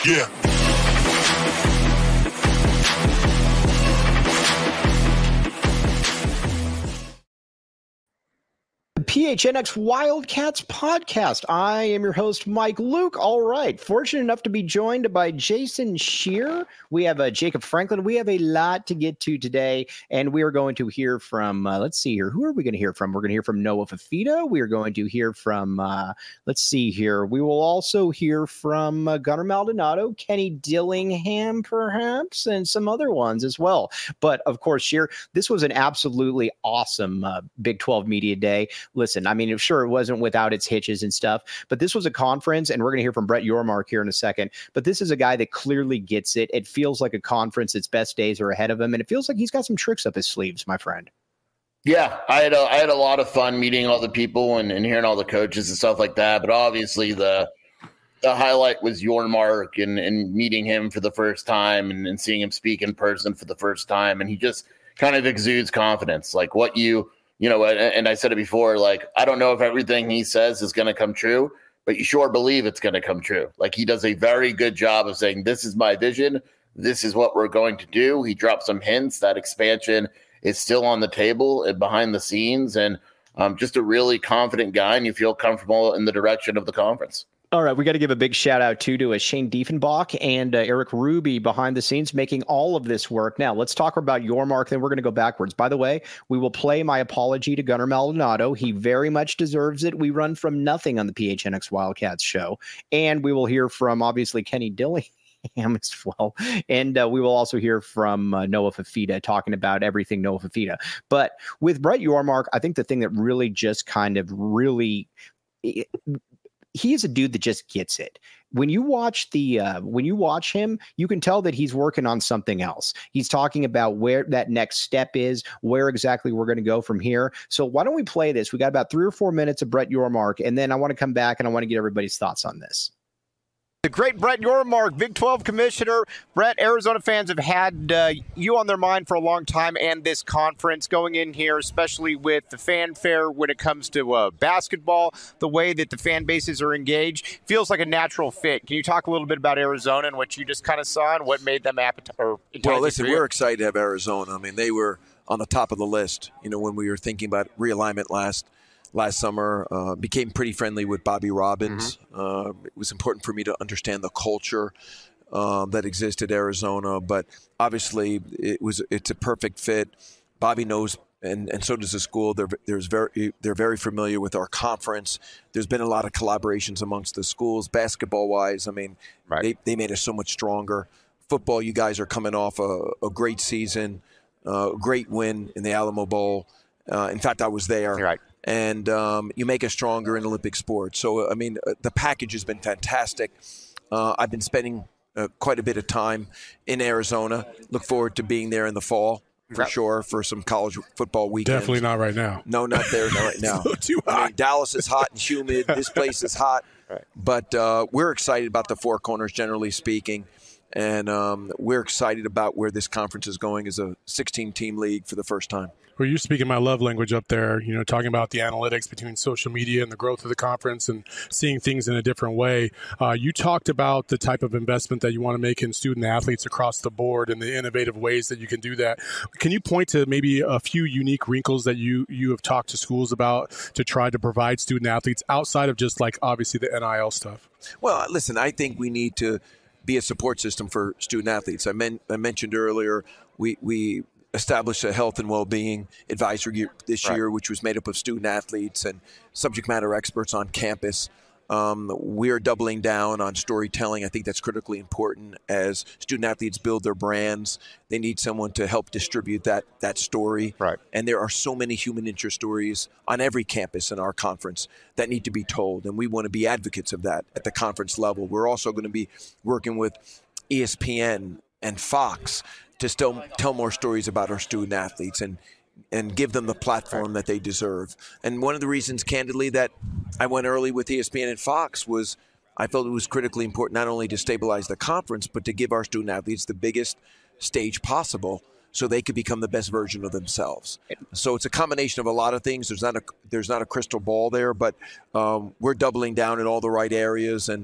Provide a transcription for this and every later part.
Yeah. PHNX Wildcats podcast. I am your host, Mike Luke. All right. Fortunate enough to be joined by Jason Scheer. We have Jacob Franklin. We have a lot to get to today, and we are going to hear from, let's see here. Who are we going to hear from? We're going to hear from Noah Fifita. We are going to hear from, let's see here. We will also hear from Gunnar Maldonado, Kenny Dillingham, perhaps, and some other ones as well. But, of course, Scheer, this was an absolutely awesome Big 12 Media Day. Listen, I mean, sure, it wasn't without its hitches and stuff, but this was a conference, and we're going to hear from Brett Yormark here in a second, but this is a guy that clearly gets it. It feels like a conference. Its best days are ahead of him, and it feels like he's got some tricks up his sleeves, my friend. Yeah, I had a lot of fun meeting all the people and hearing all the coaches and stuff like that, but obviously the highlight was Yormark and meeting him for the first time and seeing him speak in person for the first time, and he just kind of exudes confidence, like what you know, and I said it before, like, I don't know if everything he says is going to come true, but you sure believe it's going to come true. Like, he does a very good job of saying, this is my vision. This is what we're going to do. He dropped some hints that expansion is still on the table and behind the scenes, and just a really confident guy, and you feel comfortable in the direction of the conference. All right, we got to give a big shout out to Shane Diefenbach and Eric Ruby behind the scenes making all of this work. Now, let's talk about Yormark, then we're going to go backwards. By the way, we will play my apology to Gunnar Maldonado. He very much deserves it. We run from nothing on the PHNX Wildcats show. And we will hear from, obviously, Kenny Dillingham as well. And we will also hear from Noah Fifita talking about everything Noah Fifita. But with Brett Yormark, I think the thing that really just kind of really... he is a dude that just gets it. When you watch him, you can tell that he's working on something else. He's talking about where that next step is, where exactly we're going to go from here. So why don't we play this? We got about 3 or 4 minutes of Brett Yormark, and then I want to come back and I want to get everybody's thoughts on this. The great Brett Yormark, Big 12 commissioner. Brett, Arizona fans have had you on their mind for a long time, and this conference going in here, especially with the fanfare when it comes to basketball, the way that the fan bases are engaged, feels like a natural fit. Can you talk a little bit about Arizona and what you just kind of saw and what made them appetizing? Well, listen, we're excited to have Arizona. I mean, they were on the top of the list, you know, when we were thinking about realignment last summer. Became pretty friendly with Bobby Robbins. It was important for me to understand the culture that existed in Arizona, but obviously it's a perfect fit. Bobby knows, and so does the school. They're very familiar with our conference. There's been a lot of collaborations amongst the schools, basketball wise. I mean, right. They made us so much stronger. Football, you guys are coming off a great season, a great win in the Alamo Bowl. In fact, I was there. Right. And you make us stronger in Olympic sports. So, I mean, the package has been fantastic. I've been spending quite a bit of time in Arizona. Look forward to being there in the fall, for sure, for some college football weekends. Definitely not right now. No, not there, not right now. Too hot. I mean, Dallas is hot and humid. This place is hot. Right. But we're excited about the Four Corners, generally speaking. And we're excited about where this conference is going as a 16-team league for the first time. Well, you're speaking my love language up there, you know, talking about the analytics between social media and the growth of the conference and seeing things in a different way. You talked about the type of investment that you want to make in student athletes across the board and the innovative ways that you can do that. Can you point to maybe a few unique wrinkles that you have talked to schools about to try to provide student athletes outside of just like obviously the NIL stuff? Well, listen, I think we need to be a support system for student athletes. I mentioned earlier we established a health and well-being advisory group this year, which was made up of student athletes and subject matter experts on campus. We are doubling down on storytelling. I think that's critically important as student athletes build their brands. They need someone to help distribute that story. Right. And there are so many human interest stories on every campus in our conference that need to be told, and we want to be advocates of that at the conference level. We're also going to be working with ESPN and Fox to still tell more stories about our student athletes and give them the platform that they deserve. And one of the reasons, candidly, that I went early with ESPN and Fox was I felt it was critically important not only to stabilize the conference, but to give our student athletes the biggest stage possible so they could become the best version of themselves. So it's a combination of a lot of things. There's not a crystal ball there, but we're doubling down in all the right areas, and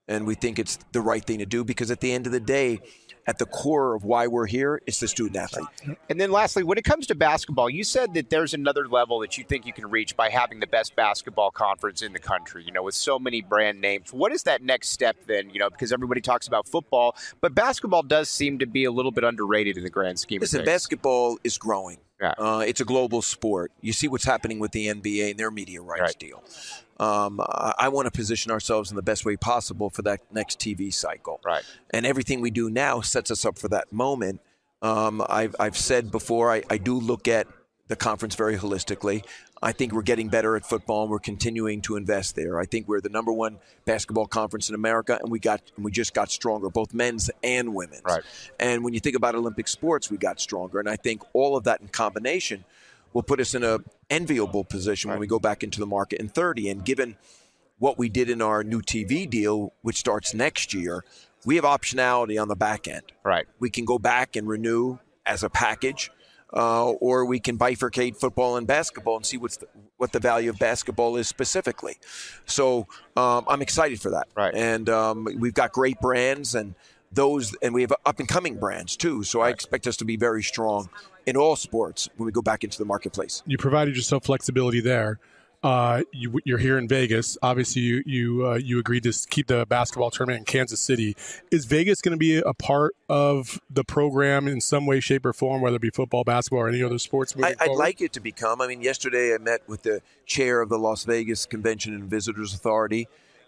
And we think it's the right thing to do because at the end of the day, at the core of why we're here is the student athlete. And then lastly, when it comes to basketball, you said that there's another level that you think you can reach by having the best basketball conference in the country, with so many brand names. What is that next step then, because everybody talks about football, but basketball does seem to be a little bit underrated in the grand scheme of Listen, things. basketball is growing. Yeah. It's a global sport. You see what's happening with the NBA and their media rights deal. I want to position ourselves in the best way possible for that next TV cycle. Right. And everything we do now sets us up for that moment. I've said before, I do look at the conference very holistically. I think we're getting better at football, and we're continuing to invest there. I think we're the number one basketball conference in America, and we just got stronger, both men's and women's. Right. And when you think about Olympic sports, we got stronger. And I think all of that in combination will put us in an enviable position when we go back into the market in 30. And given what we did in our new TV deal, which starts next year, we have optionality on the back end. Right. We can go back and renew as a package, or we can bifurcate football and basketball and see what the value of basketball is specifically. So I'm excited for that. Right. And we've got great brands and we have up-and-coming brands too. So I expect us to be very strong in all sports when we go back into the marketplace. You provided yourself flexibility there. You're here in Vegas. Obviously, you agreed to keep the basketball tournament in Kansas City. Is Vegas going to be a part of the program in some way, shape, or form, whether it be football, basketball, or any other sports moving I'd forward? like it to become. I mean, yesterday I met with the chair of the Las Vegas Convention and Visitors Authority.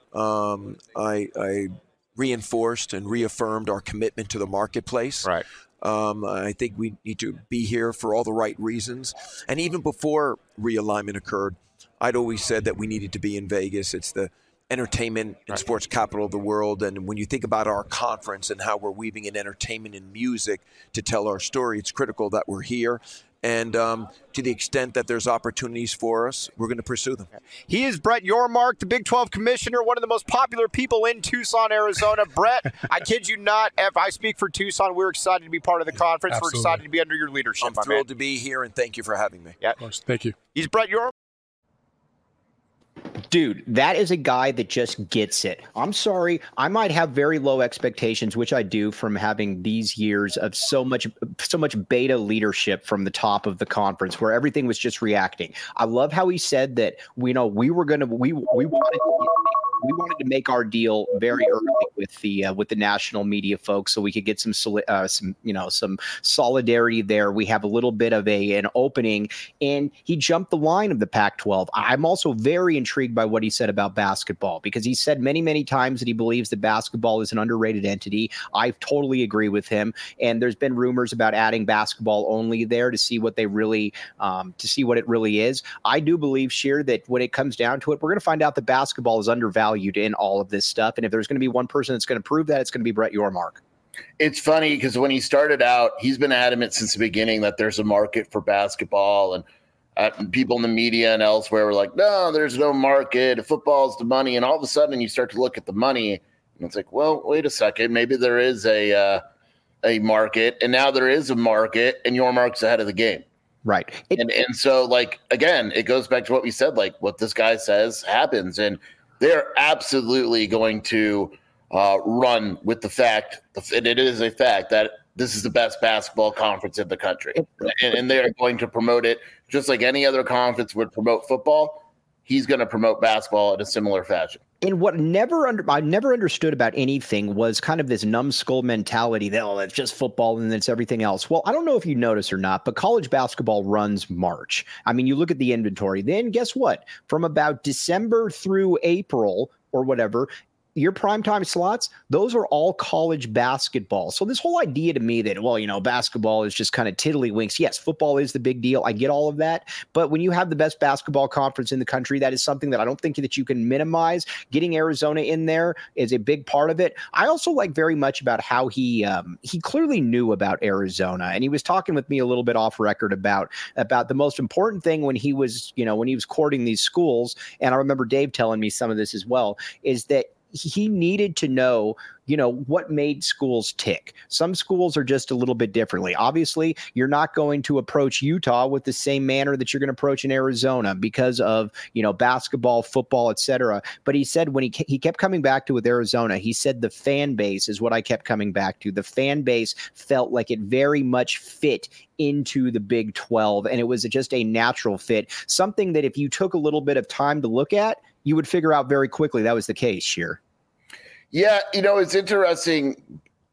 I reinforced and reaffirmed our commitment to the marketplace. Right. I think we need to be here for all the right reasons. And even before realignment occurred, I'd always said that we needed to be in Vegas. It's the entertainment and sports capital of the world. And when you think about our conference and how we're weaving in entertainment and music to tell our story, it's critical that we're here. And to the extent that there's opportunities for us, we're going to pursue them. He is Brett Yormark, the Big 12 commissioner, one of the most popular people in Tucson, Arizona. Brett, I kid you not, if I speak for Tucson, we're excited to be part of the conference. Absolutely. We're excited to be under your leadership, I'm thrilled to be here, and thank you for having me. Yeah. Of course. Thank you. He's Brett Yormark. Dude, that is a guy that just gets it. I'm sorry. I might have very low expectations, which I do from having these years of so much beta leadership from the top of the conference where everything was just reacting. I love how he said that, we wanted to make our deal very early with the national media folks so we could get some solidarity there. We have a little bit of an opening, and he jumped the line of the Pac-12. I'm also very intrigued by what he said about basketball, because he said many, many times that he believes that basketball is an underrated entity. I totally agree with him. And there's been rumors about adding basketball only there to see what it really is. I do believe, Sheer, that when it comes down to it, we're going to find out that basketball is undervalued in all of this stuff. And if there's going to be one person that's going to prove that, it's going to be Brett Yormark. It's funny because when he started out, he's been adamant since the beginning that there's a market for basketball, and people in the media and elsewhere were like, no, there's no market. Football's the money. And all of a sudden you start to look at the money and it's like, well, wait a second. Maybe there is a market, and now there is a market, and Yormark's ahead of the game. Right. And so, like, again, it goes back to what we said, like what this guy says happens. And they're absolutely going to run with the fact, and it is a fact, that this is the best basketball conference in the country. And they are going to promote it just like any other conference would promote football. He's going to promote basketball in a similar fashion. And what I never understood about anything was kind of this numbskull mentality that, oh, it's just football and it's everything else. Well, I don't know if you notice or not, but college basketball runs March. I mean, you look at the inventory. Then guess what? From about December through April or whatever, your primetime slots, those are all college basketball. So this whole idea to me that, well, basketball is just kind of tiddlywinks. Yes, football is the big deal. I get all of that. But when you have the best basketball conference in the country, that is something that I don't think that you can minimize. Getting Arizona in there is a big part of it. I also like very much about how he clearly knew about Arizona. And he was talking with me a little bit off record about the most important thing when he was courting these schools. And I remember Dave telling me some of this as well, is that he needed to know, what made schools tick. Some schools are just a little bit differently. Obviously, you're not going to approach Utah with the same manner that you're going to approach in Arizona because of, basketball, football, etc. But he said when he kept coming back to with Arizona, he said the fan base is what I kept coming back to. The fan base felt like it very much fit into the Big 12, and it was just a natural fit. Something that if you took a little bit of time to look at, you would figure out very quickly that was the case, Scheer. Yeah, it's interesting.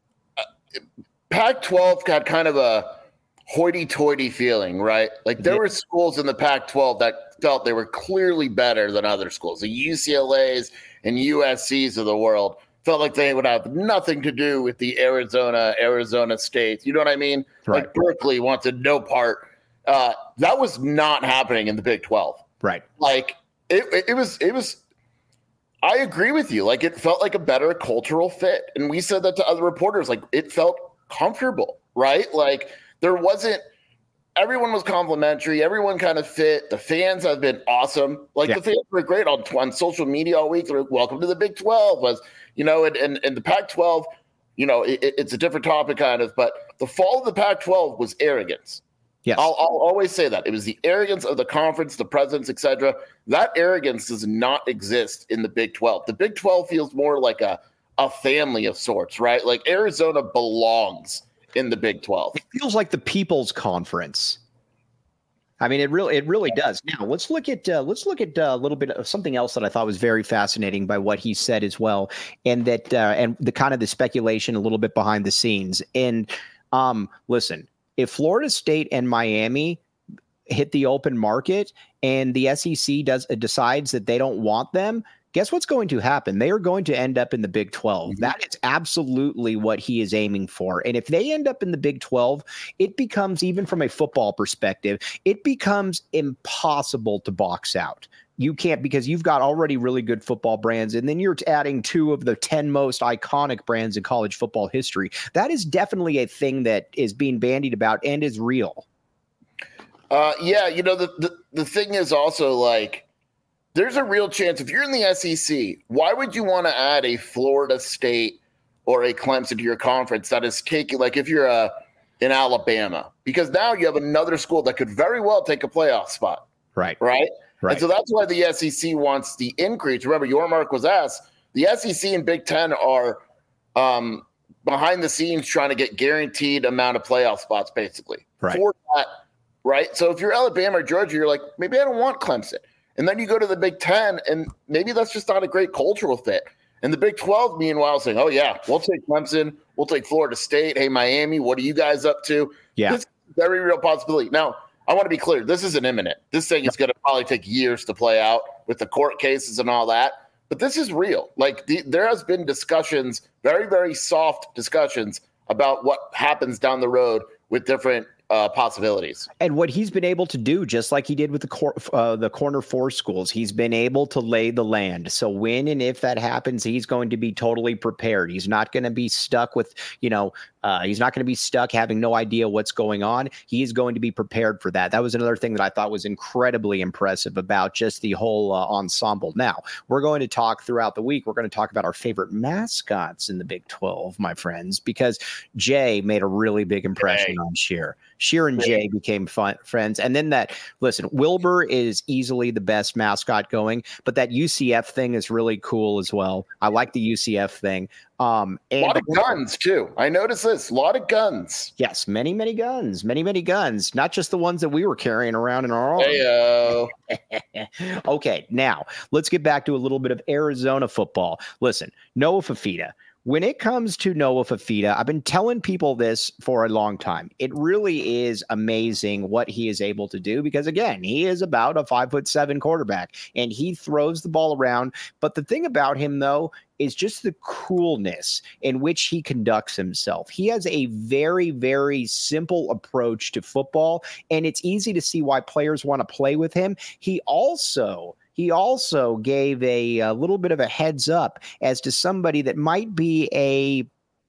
Pac-12 got kind of a hoity-toity feeling, right? Like there were schools in the Pac-12 that felt they were clearly better than other schools. The UCLAs and USCs of the world felt like they would have nothing to do with the Arizona State. You know what I mean? Right. Like Berkeley wanted no part. That was not happening in the Big 12. Right. Like it was. I agree with you. Like it felt like a better cultural fit. And we said that to other reporters, like it felt comfortable, right? Like everyone was complimentary. Everyone kind of fit. The fans have been awesome. Like the fans were great on social media all week. They're like, welcome to the Big 12 and the Pac-12, it's a different topic kind of, but the fall of the Pac-12 was arrogance. Yes. I'll always say that. It was the arrogance of the conference, the presidents, et cetera. That arrogance does not exist in the Big 12. The Big 12 feels more like a family of sorts, right? Like Arizona belongs in the Big 12. It feels like the People's Conference. I mean, it really does. Now let's look at a little bit of something else that I thought was very fascinating by what he said as well, and that and the kind of the speculation a little bit behind the scenes. And listen. If Florida State and Miami hit the open market and the SEC decides that they don't want them, guess what's going to happen? They are going to end up in the Big 12. Mm-hmm. That is absolutely what he is aiming for. And if they end up in the Big 12, it becomes, even from a football perspective, it becomes impossible to box out. You can't, because you've got already really good football brands, and then you're adding 2 of the 10 most iconic brands in college football history. That is definitely a thing that is being bandied about and is real. The thing is also like, there's a real chance if you're in the SEC, why would you want to add a Florida State or a Clemson to your conference that is taking, like if you're in Alabama, because now you have another school that could very well take a playoff spot. Right. And so that's why the SEC wants the increase. Remember, Yormark was asked, the SEC and Big Ten are behind the scenes trying to get guaranteed amount of playoff spots, basically. Right. For that, right? So if you're Alabama or Georgia, you're like, maybe I don't want Clemson. And then you go to the Big Ten, and maybe that's just not a great cultural fit. And the Big 12, meanwhile, saying, oh, yeah, we'll take Clemson. We'll take Florida State. Hey, Miami, what are you guys up to? Yeah. This is a very real possibility. Now, I want to be clear. This isn't imminent. This thing is going to probably take years to play out with the court cases and all that. But this is real. Like there has been discussions, very, very soft discussions about what happens down the road with different possibilities. And what he's been able to do, just like he did with the Corner 4 schools, he's been able to lay the land. So when and if that happens, he's going to be totally prepared. He's not going to be stuck with, he's not going to be stuck having no idea what's going on. He's going to be prepared for that. That was another thing that I thought was incredibly impressive about just the whole ensemble. Now, we're going to talk throughout the week. We're going to talk about our favorite mascots in the Big 12, my friends, because Jay made a really big impression on Scheer. Scheer and Jay became friends. And then Wilbur is easily the best mascot going, but that UCF thing is really cool as well. I like the UCF thing. And a lot of guns too. I noticed this. A lot of guns. Yes, many guns. Many guns. Not just the ones that we were carrying around in our arms. Heyo. Okay, now let's get back to a little bit of Arizona football. Listen, Noah Fifita. When it comes to Noah Fifita, I've been telling people this for a long time. It really is amazing what he is able to do because, again, he is about a 5'7" quarterback and he throws the ball around. But the thing about him, though, is just the coolness in which he conducts himself. He has a very, very simple approach to football, and it's easy to see why players want to play with him. He also gave a little bit of a heads up as to somebody that might be, I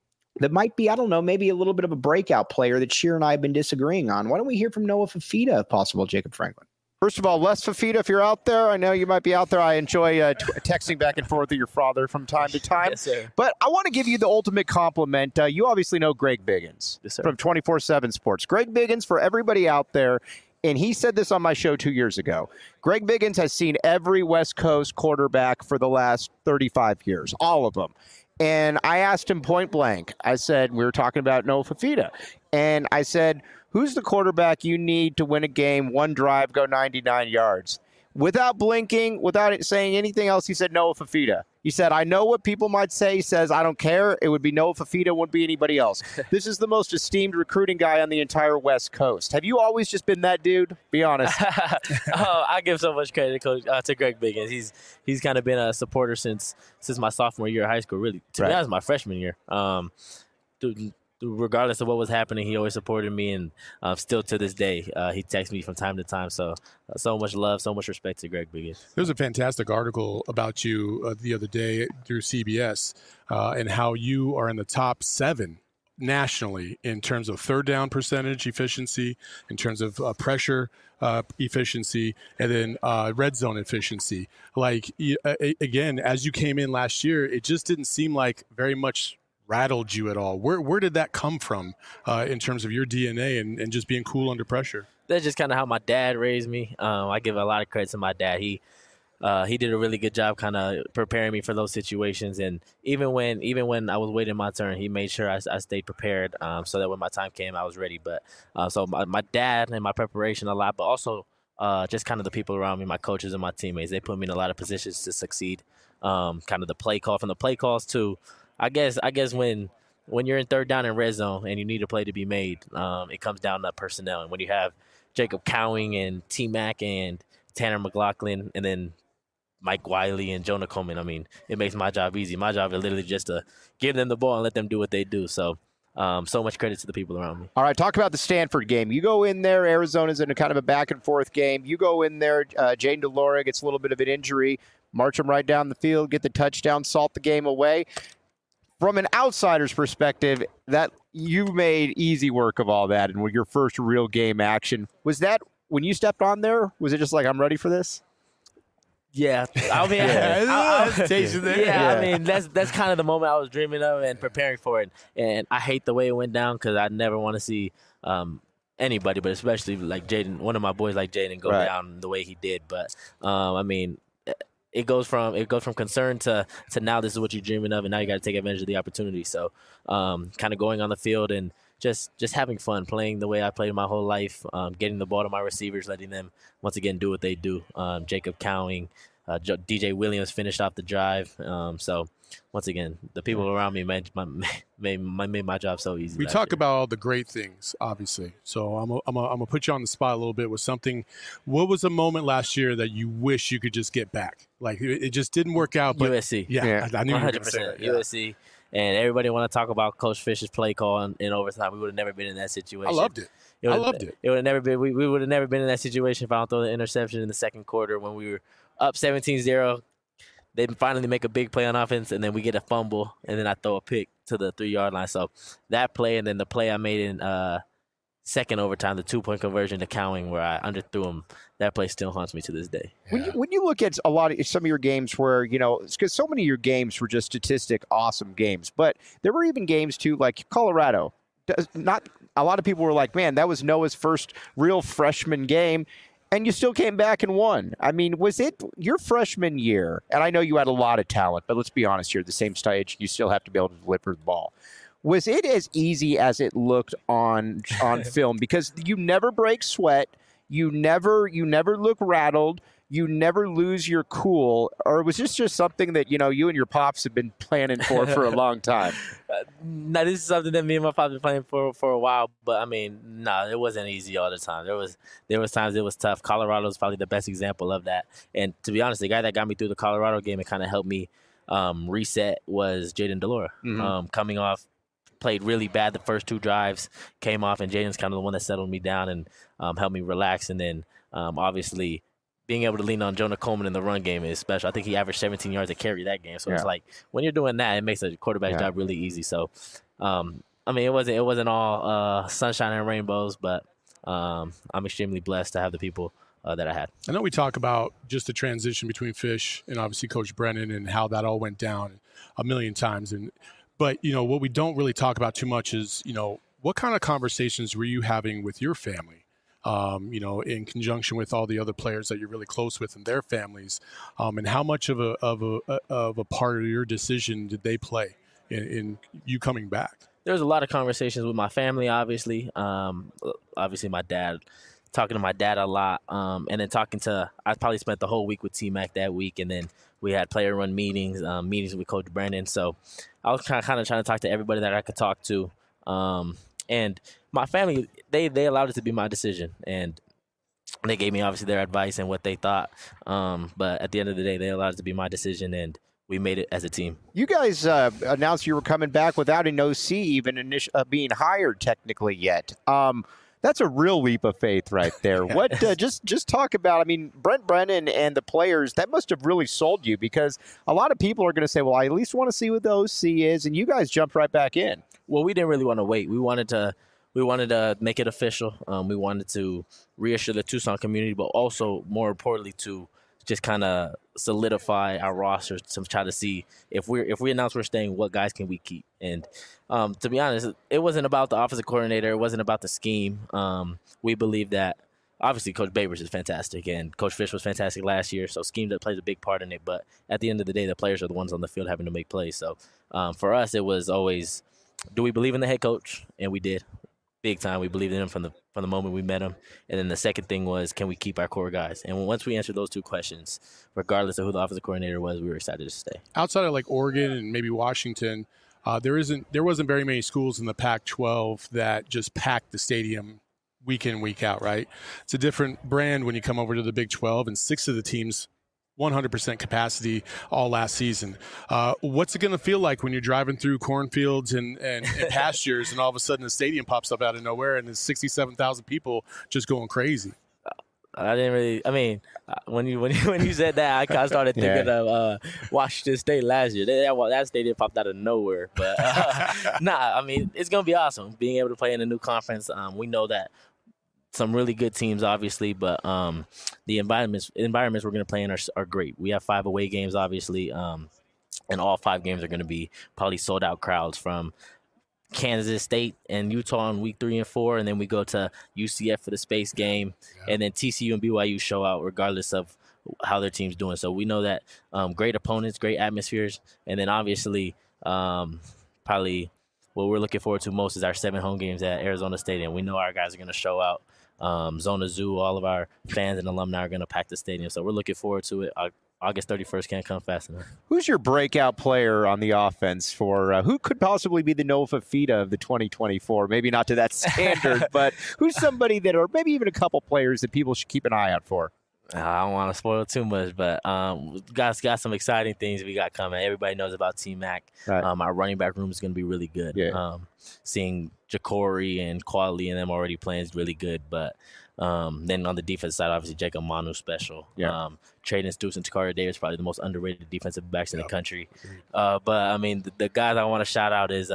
don't know, maybe a little bit of a breakout player that Scheer and I have been disagreeing on. Why don't we hear from Noah Fifita, if possible, Jacob Franklin? First of all, Les Fafita, if you're out there, I know you might be out there. I enjoy texting back and forth with your father from time to time. Yes, sir. But I want to give you the ultimate compliment. You obviously know Greg Biggins from 24/7 Sports. Greg Biggins, for everybody out there, and he said this on my show 2 years ago, Greg Biggins has seen every West Coast quarterback for the last 35 years, all of them. And I asked him point blank. I said, we were talking about Noah Fafita. And I said, who's the quarterback you need to win a game, one drive, go 99 yards? Without blinking, without saying anything else, he said Noah Fafita. He said, I know what people might say. He says, I don't care. It would be Noah Fafita. It wouldn't be anybody else. This is the most esteemed recruiting guy on the entire West Coast. Have you always just been that dude? Be honest. I give so much credit to Greg Biggins. He's kind of been a supporter since my sophomore year of high school, really. To be honest, my freshman year. Regardless of what was happening, he always supported me, and still to this day, he texts me from time to time. So much love, so much respect to Greg Biggins. There was a fantastic article about you the other day through CBS and how you are in the top 7 nationally in terms of third down percentage efficiency, in terms of pressure efficiency, and then red zone efficiency. Like, again, as you came in last year, it just didn't seem like very much rattled you at all. Where did that come from in terms of your DNA and just being cool under pressure? That's just kind of how my dad raised me. I give a lot of credit to my dad. He did a really good job kind of preparing me for those situations. And even when I was waiting my turn, he made sure I stayed prepared so that when my time came, I was ready. But so my dad and my preparation a lot, but also just kind of the people around me, my coaches and my teammates, they put me in a lot of positions to succeed. Kind of the play call, from the play calls to, I guess when you're in third down and red zone and you need a play to be made, it comes down to personnel. And when you have Jacob Cowing and T-Mac and Tanner McLaughlin and then Mike Wiley and Jonah Coleman, I mean, it makes my job easy. My job is literally just to give them the ball and let them do what they do. So much credit to the people around me. All right, talk about the Stanford game. You go in there, Arizona's in a kind of a back-and-forth game. You go in there, Jayden de Laura gets a little bit of an injury, march him right down the field, get the touchdown, salt the game away. From an outsider's perspective, that you made easy work of all that, and with your first real game action, was that when you stepped on there? Was it just like, I'm ready for this? Yeah, I mean, I mean that's kind of the moment I was dreaming of and preparing for it. And I hate the way it went down because I never want to see anybody, but especially like Jayden, one of my boys like Jayden, go down the way he did. But I mean, it goes from concern to now this is what you're dreaming of, and now you got to take advantage of the opportunity. So kind of going on the field and just having fun, playing the way I played my whole life, getting the ball to my receivers, letting them once again do what they do. Jacob Cowing, DJ Williams finished off the drive. So once again, the people around me made my job so easy. We talk about all the great things, obviously. So I'm gonna put you on the spot a little bit with something. What was a moment last year that you wish you could just get back? Like it just didn't work out. But USC. Yeah. I knew you were going to say that. USC. And everybody want to talk about Coach Fish's play call in overtime. We would have never been in that situation. I loved it. I loved it. It would have never been. We would have never been in that situation if I don't throw the interception in the second quarter when we were up 17-0. They finally make a big play on offense, and then we get a fumble, and then I throw a pick to the 3-yard line. So that play, and then the play I made in second overtime, the 2-point conversion to Cowing where I underthrew him, that play still haunts me to this day. When you look at some of your games where, because so many of your games were just statistic awesome games, but there were even games too, like Colorado. Not a lot of people were like, man, that was Noah's first real freshman game. And you still came back and won. I mean, was it your freshman year? And I know you had a lot of talent, but let's be honest here. At the same stage, you still have to be able to deliver the ball. Was it as easy as it looked on film? Because you never break sweat. You never look rattled. You never lose your cool. Or was this just something that, you and your pops have been planning for a long time? No, this is something that me and my pops have been playing for a while. But, I mean, no, it wasn't easy all the time. There was times it was tough. Colorado was probably the best example of that. And to be honest, the guy that got me through the Colorado game and kind of helped me reset was Jayden de Laura. Mm-hmm. Coming off, played really bad the first 2 drives, came off, and Jayden's kind of the one that settled me down and helped me relax. And then, obviously, being able to lean on Jonah Coleman in the run game is special. I think he averaged 17 yards to carry that game. So it's like when you're doing that, it makes a quarterback's job really easy. So, I mean, it wasn't all sunshine and rainbows, but I'm extremely blessed to have the people that I had. I know we talk about just the transition between Fish and obviously Coach Brennan and how that all went down a million times. But, what we don't really talk about too much is, what kind of conversations were you having with your family, in conjunction with all the other players that you're really close with and their families, and how much of a part of your decision did they play in you coming back? There was a lot of conversations with my family, obviously. Obviously, my dad. Talking to my dad a lot, and then I probably spent the whole week with T-Mac that week, and then we had player-run meetings with Coach Brennan. So I was kind of trying to talk to everybody that I could talk to, and my family, they allowed it to be my decision, and they gave me obviously their advice and what they thought. But at the end of the day, they allowed it to be my decision, and we made it as a team. You guys announced you were coming back without an OC even being hired technically yet. That's a real leap of faith right there. What just talk about, I mean, Brent Brennan and the players, that must have really sold you, because a lot of people are going to say, well, I at least want to see what the OC is, and you guys jumped right back in. Well, we didn't really want to wait. We wanted to make it official. We wanted to reassure the Tucson community, but also more importantly to just kind of solidify our roster to try to see if we announce we're staying, what guys can we keep. And to be honest, it wasn't about the offensive coordinator. It wasn't about the scheme. We believe that obviously Coach Babers is fantastic, and Coach Fish was fantastic last year, so scheme plays a big part in it. But at the end of the day, the players are the ones on the field having to make plays. So for us, it was always, do we believe in the head coach? And we did. Big time. We believed in him from the moment we met him. And then the second thing was, can we keep our core guys? And once we answered those two questions, regardless of who the offensive coordinator was, we were excited to stay. Outside of like Oregon and maybe Washington, there wasn't very many schools in the Pac-12 that just packed the stadium week in, week out, right? It's a different brand when you come over to the Big 12, and 6 of the teams 100% capacity all last season. What's it going to feel like when you're driving through cornfields and pastures, and all of a sudden the stadium pops up out of nowhere and there's 67,000 people just going crazy? I didn't really. I mean, when you said that, I started thinking of Washington State last year. That stadium popped out of nowhere. But I mean, it's gonna be awesome being able to play in a new conference. We know that some really good teams, obviously, but the environments we're going to play in are great. We have 5 away games, obviously, and all 5 games are going to be probably sold-out crowds, from Kansas State and Utah in week 3 and 4, and then we go to UCF for the space game, and then TCU and BYU show out regardless of how their team's doing. So we know that great opponents, great atmospheres, and then obviously probably what we're looking forward to most is our 7 home games at Arizona Stadium. We know our guys are going to show out. Zona Zoo, all of our fans and alumni are going to pack the stadium. So we're looking forward to it. August 31st can't come fast enough. Who's your breakout player on the offense for who could possibly be the Noah Fifita of the 2024? Maybe not to that standard, but who's somebody that, or maybe even a couple players that people should keep an eye out for? I don't want to spoil too much, but guys got some exciting things we got coming. Everybody knows about T-Mac. Right. Our running back room is going to be really good. Yeah. Seeing Jacory and Quali and them already playing is really good. But then on the defense side, obviously Jacob Manu special. Yeah. Traden Stoops and Takaria Davis, probably the most underrated defensive backs in the country. But I mean, the guys I want to shout out is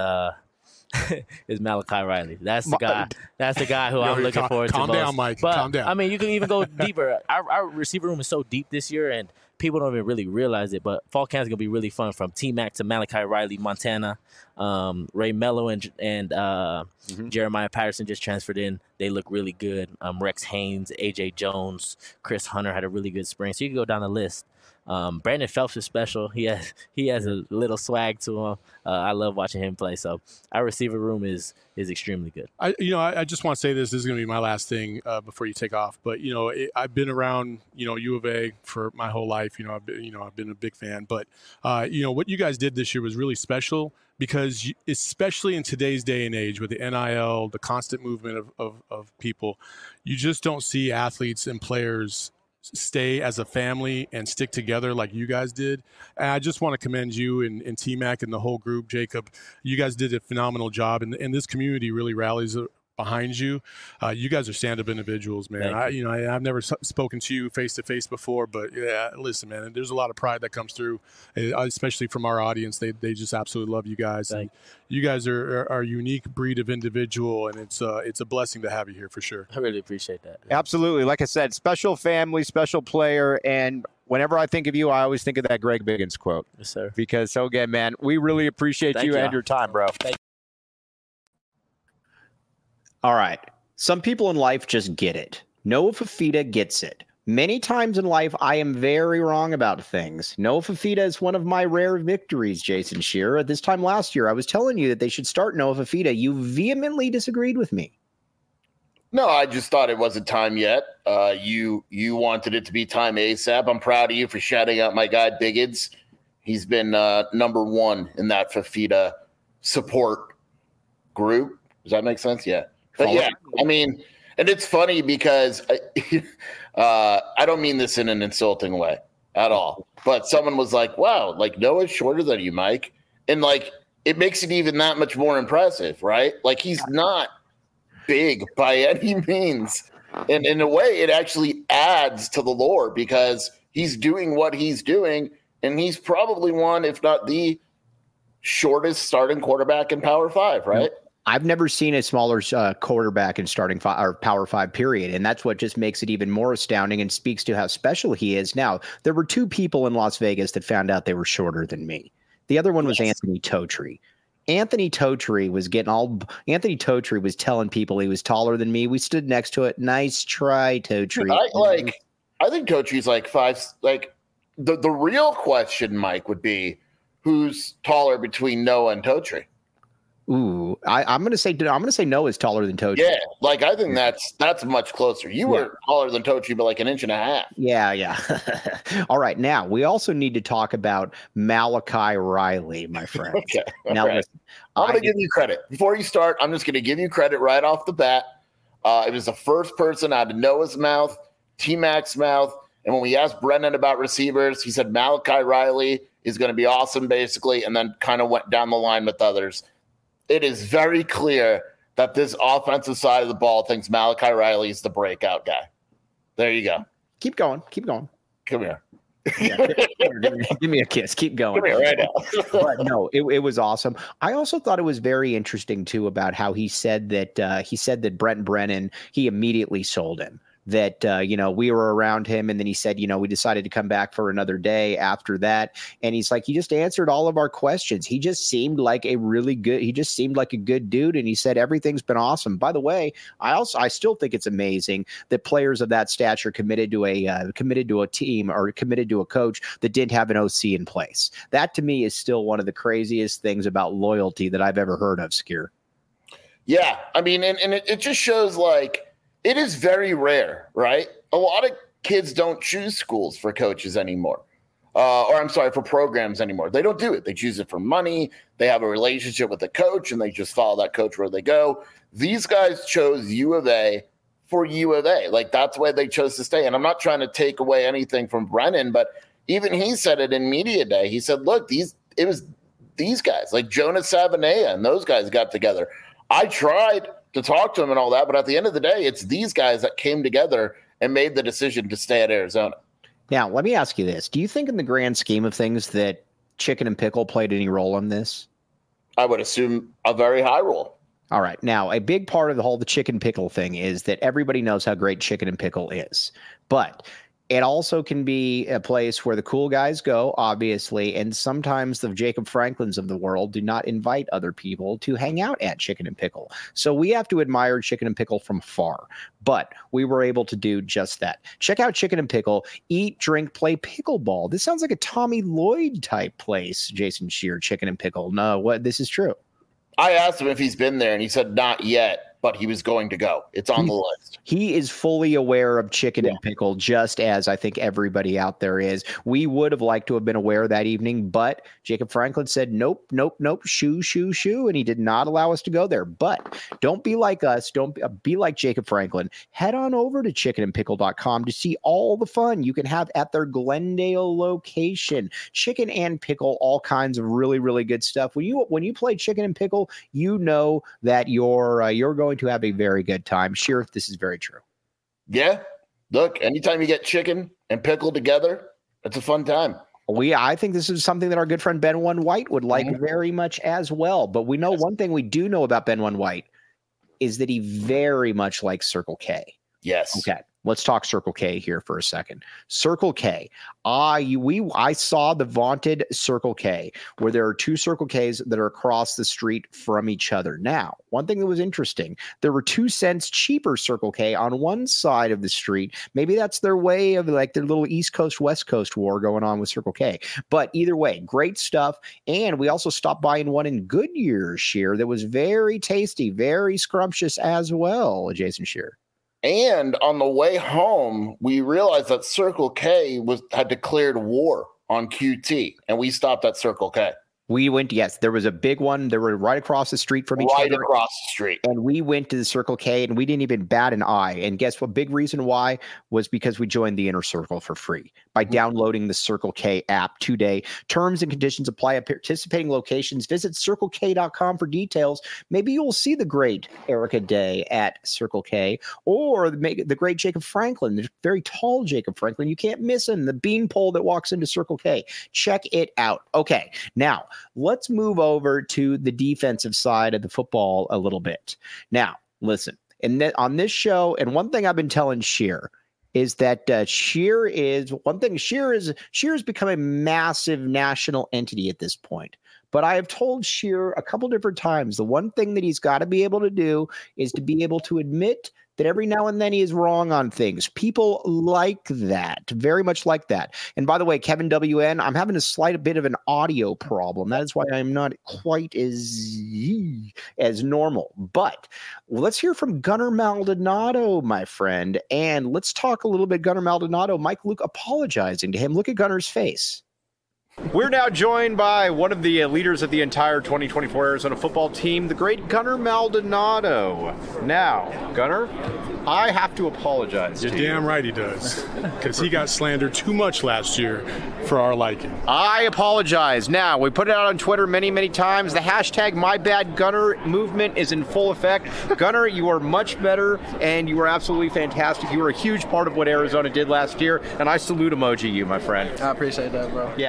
Malachi Riley. That's the guy. That's the guy who I'm looking forward to. Calm down, Mike. But, calm down. I mean, you can even go deeper. Our receiver room is so deep this year, and people don't even really realize it. But fall camp is gonna be really fun, from T-Mac to Malachi Riley, Montana, Ray Mello and Jeremiah Patterson just transferred in. They look really good. Rex Haynes, AJ Jones, Chris Hunter had a really good spring. So you can go down the list. Brandon Phelps is special. He has a little swag to him. I love watching him play. So our receiver room is extremely good. I just want to say this is going to be my last thing before you take off. But I've been around U of A for my whole life. I've been a big fan. But what you guys did this year was really special, because especially in today's day and age with the NIL, the constant movement of people, you just don't see athletes and players stay as a family and stick together like you guys did. And I just want to commend you and T-Mac and the whole group, Jacob. You guys did a phenomenal job, and this community really rallies behind you. You guys are stand-up individuals, man. I've never spoken to you face to face before, but yeah, listen, man, there's a lot of pride that comes through, especially from our audience. They just absolutely love you guys. And you guys are a unique breed of individual, and it's a blessing to have you here for sure. I really appreciate that. Absolutely. Like I said, special family, special player, and whenever I think of you, I always think of that Greg Biggins quote. Yes, sir. Because, so again, man, we really appreciate you and your time, bro. All right. Some people in life just get it. Noah Fifita gets it. Many times in life, I am very wrong about things. Noah Fifita is one of my rare victories, Jason Shearer. At this time last year, I was telling you that they should start Noah Fifita. You vehemently disagreed with me. No, I just thought it wasn't time yet. You wanted it to be time ASAP. I'm proud of you for shouting out my guy Biggins. He's been number one in that Fifita support group. Does that make sense? Yeah. But yeah, I mean, and it's funny because I don't mean this in an insulting way at all. But someone was like, wow, like Noah's shorter than you, Mike. And like, it makes it even that much more impressive, right? Like he's not big by any means. And in a way, it actually adds to the lore because he's doing what he's doing. And he's probably one, if not the shortest starting quarterback in Power 5, right? I've never seen a smaller quarterback in starting five or Power 5 period. And that's what just makes it even more astounding and speaks to how special he is. Now, there were two people in Las Vegas that found out they were shorter than me. The other one was Anthony Totri. Anthony Totri was telling people he was taller than me. We stood next to it. Nice try, Totri. I think Totri's like 5. Like the real question, Mike, would be who's taller between Noah and Totri? Ooh, I'm gonna say Noah's taller than Totri. Yeah, like I think that's much closer. You were taller than Totri, but like an inch and a half. Yeah. All right, now we also need to talk about Malachi Riley, my friend. Okay. Now right. listen, I'm gonna give you credit before you start. I'm just gonna give you credit right off the bat. It was the first person out of Noah's mouth, T-Mac's mouth, and when we asked Brennan about receivers, he said Malachi Riley is going to be awesome, basically, and then kind of went down the line with others. It is very clear that this offensive side of the ball thinks Malachi Riley is the breakout guy. There you go. Keep going. Come here. Yeah, give me a kiss. Keep going. Come here right now. But no, it was awesome. I also thought it was very interesting too about how he said that Brent Brennan, he immediately sold him. That, we were around him and then he said, we decided to come back for another day after that. And he's like, he just answered all of our questions. He just seemed like a good dude. And he said, everything's been awesome. By the way, I still think it's amazing that players of that stature committed to a team or committed to a coach that didn't have an OC in place. That to me is still one of the craziest things about loyalty that I've ever heard of, Skier. Yeah. I mean, and it just shows like, it is very rare, right? A lot of kids don't choose schools for coaches anymore. For programs anymore. They don't do it. They choose it for money. They have a relationship with the coach, and they just follow that coach where they go. These guys chose U of A for U of A. Like, that's why they chose to stay. And I'm not trying to take away anything from Brennan, but even he said it in media day. He said, look, it was these guys, like Jonas Savanea and those guys got together. I tried to talk to him and all that, but at the end of the day, it's these guys that came together and made the decision to stay at Arizona. Now, let me ask you this. Do you think in the grand scheme of things that Chicken and Pickle played any role in this? I would assume a very high role. All right. Now, a big part of the Chicken Pickle thing is that everybody knows how great Chicken and Pickle is. But it also can be a place where the cool guys go, obviously, and sometimes the Jacob Franklins of the world do not invite other people to hang out at Chicken and Pickle. So we have to admire Chicken and Pickle from afar, but we were able to do just that. Check out Chicken and Pickle, eat, drink, play pickleball. This sounds like a Tommy Lloyd type place, Jason Shearer, Chicken and Pickle. No, this is true. I asked him if he's been there, and he said not yet, but he was going to go. It's on the list. He is fully aware of Chicken and Pickle, just as I think everybody out there is. We would have liked to have been aware that evening, but Jacob Franklin said, nope, shoo, and he did not allow us to go there. But don't be like us. Don't be like Jacob Franklin. Head on over to chickenandpickle.com to see all the fun you can have at their Glendale location. Chicken and Pickle, all kinds of really, really good stuff. When you play Chicken and Pickle, you know that you're going going to have a very good time. Sheer, this is very true. Yeah. Look, anytime you get chicken and pickle together, it's a fun time. I think this is something that our good friend Ben One White would like very much as well. But we know one thing we do know about Ben One White is that he very much likes Circle K. Yes. Okay. Let's talk Circle K here for a second. Circle K. I saw the vaunted Circle K, where there are two Circle Ks that are across the street from each other. Now, one thing that was interesting, there were 2 cents cheaper Circle K on one side of the street. Maybe that's their way of like their little East Coast, West Coast war going on with Circle K. But either way, great stuff. And we also stopped by in one in Goodyear, Sheer, that was very tasty, very scrumptious as well, Jason Sheer. And on the way home, we realized that Circle K had declared war on QT, and we stopped at Circle K. We went, yes, there was a big one. They were right across the street from each other. Right across the street. And we went to the Circle K and we didn't even bat an eye. And guess what? Big reason why was because we joined the Inner Circle for free by downloading the Circle K app today. Terms and conditions apply at participating locations. Visit CircleK.com for details. Maybe you'll see the great Erica Day at Circle K or the great Jacob Franklin, the very tall Jacob Franklin. You can't miss him, the beanpole that walks into Circle K. Check it out. Okay, now, let's move over to the defensive side of the football a little bit. Now, listen, on this show, and one thing I've been telling Sheer is that Sheer has become a massive national entity at this point. But I have told Sheer a couple different times, the one thing that he's got to be able to do is to be able to admit that every now and then he is wrong on things. People like that, very much like that. And by the way, Kevin WN, I'm having a slight bit of an audio problem. That is why I'm not quite as normal. But let's hear from Gunnar Maldonado, my friend. And let's talk a little bit Gunnar Maldonado. Mike Luke apologizing to him. Look at Gunnar's face. We're now joined by one of the leaders of the entire 2024 Arizona football team, the great Gunnar Maldonado. Now, Gunnar, I have to apologize to you. You're damn right he does, because he got slandered too much last year for our liking. I apologize. Now, we put it out on Twitter many, many times. The hashtag MyBadGunnar movement is in full effect. Gunnar, you are much better, and you are absolutely fantastic. You were a huge part of what Arizona did last year, and I salute emoji you, my friend. I appreciate that, bro. Yeah.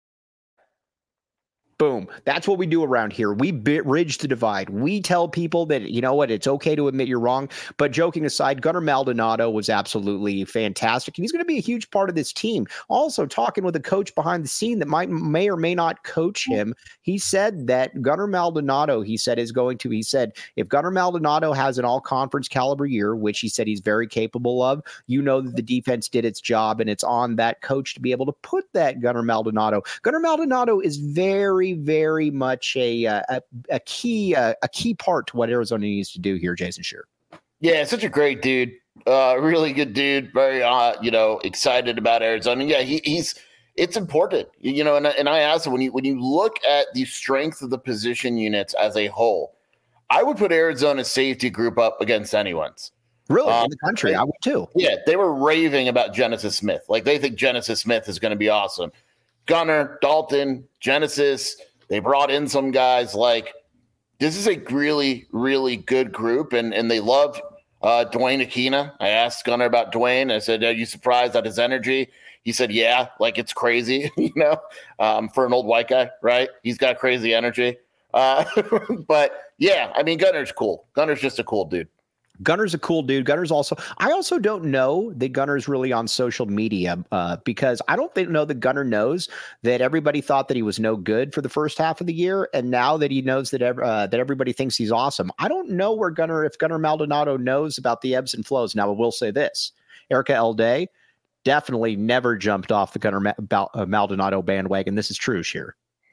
Boom. That's what we do around here. We bridge the divide. We tell people that, you know what, it's okay to admit you're wrong. But joking aside, Gunnar Maldonado was absolutely fantastic. And he's going to be a huge part of this team. Also, talking with a coach behind the scene that may or may not coach him, he said that Gunnar Maldonado, he said, if Gunnar Maldonado has an all-conference caliber year, which he said he's very capable of, you know that the defense did its job, and it's on that coach to be able to put that Gunnar Maldonado. Gunnar Maldonado is very much a key part to what Arizona needs to do here, Jason Shear. Yeah, such a great dude. Really good dude. Very, excited about Arizona. Yeah, it's important, and I asked him, when you look at the strength of the position units as a whole, I would put Arizona's safety group up against anyone's. Really? In the country, I would too. Yeah, they were raving about Genesis Smith. Like, they think Genesis Smith is going to be awesome. Gunnar, Dalton, Genesis, they brought in some guys. Like, this is a really, really good group, and they love Dwayne Aquina. I asked Gunnar about Dwayne. I said, are you surprised at his energy? He said, yeah, like, it's crazy, for an old white guy, right? He's got crazy energy. But, yeah, I mean, Gunnar's cool. Gunnar's just a cool dude. Gunner's a cool dude. I also don't know that Gunner's really on social media because I don't know that Gunner knows that everybody thought that he was no good for the first half of the year. And now that he knows that everybody thinks he's awesome, I don't know if Gunnar Maldonado knows about the ebbs and flows. Now, I will say this, Erica L. Day definitely never jumped off the Gunnar Maldonado bandwagon. This is true, Sheer.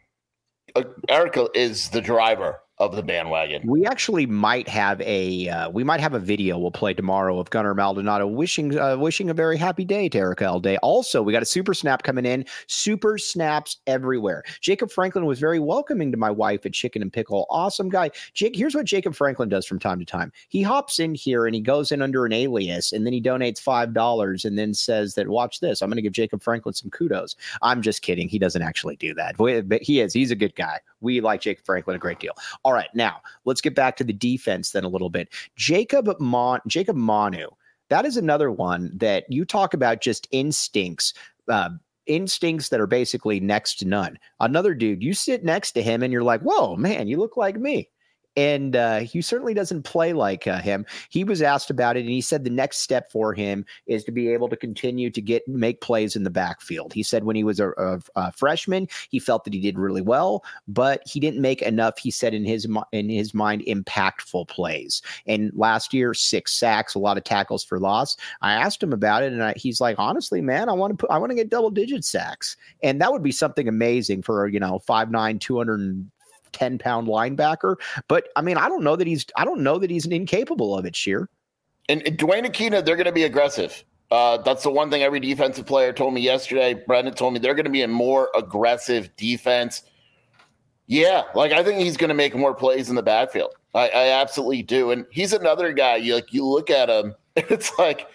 Erica is the driver of the bandwagon. We actually might have a video we'll play tomorrow of Gunnar Maldonado wishing a very happy day to Erica L. Day. Also, we got a super snap coming in. Super snaps everywhere. Jacob Franklin was very welcoming to my wife at Chicken and Pickle. Awesome guy. Here's what Jacob Franklin does from time to time. He hops in here and he goes in under an alias and then he donates $5 and then says that, watch this, I'm going to give Jacob Franklin some kudos. I'm just kidding. He doesn't actually do that. But he's a good guy. We like Jacob Franklin a great deal. All right, now let's get back to the defense then a little bit. Jacob Manu, that is another one that you talk about just instincts that are basically next to none. Another dude, you sit next to him and you're like, whoa, man, you look like me. And he certainly doesn't play like him. He was asked about it, and he said the next step for him is to be able to continue to make plays in the backfield. He said when he was a freshman, he felt that he did really well, but he didn't make enough, he said, in his mind, impactful plays. And last year, 6 sacks, a lot of tackles for loss. I asked him about it, and he's like, honestly, man, I want to get double-digit sacks. And that would be something amazing for, 5'9", 210-pound linebacker. But I mean, I don't know that he's incapable of it, Sheer. And Dwayne Aquino, they're going to be aggressive. That's the one thing every defensive player told me yesterday. Brendan told me they're going to be a more aggressive defense. Yeah, I think he's going to make more plays in the backfield. I absolutely do. And he's another guy. You look at him, it's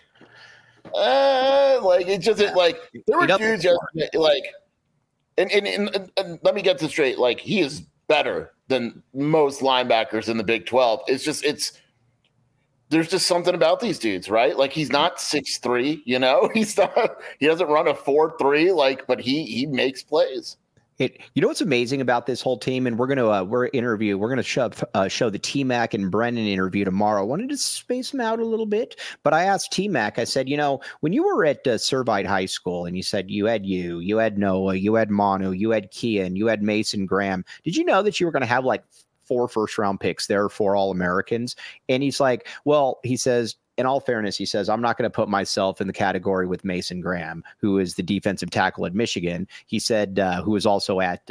it just there were dudes yesterday, and let me get this straight. He is better than most linebackers in the Big 12. There's just something about these dudes, right? He's not 6'3", he doesn't run a 4.3, but he makes plays. What's amazing about this whole team, and we're going to show the T-Mac and Brennan interview tomorrow. I wanted to space them out a little bit, but I asked T-Mac, I said, when you were at Servite High School and you said you had Noah, you had Manu, you had Kian, you had Mason Graham, did you know that you were going to have 4 first-round picks there for All-Americans? And he's like, well, he says, in all fairness, he says, I'm not going to put myself in the category with Mason Graham, who is the defensive tackle at Michigan. He said, who was also at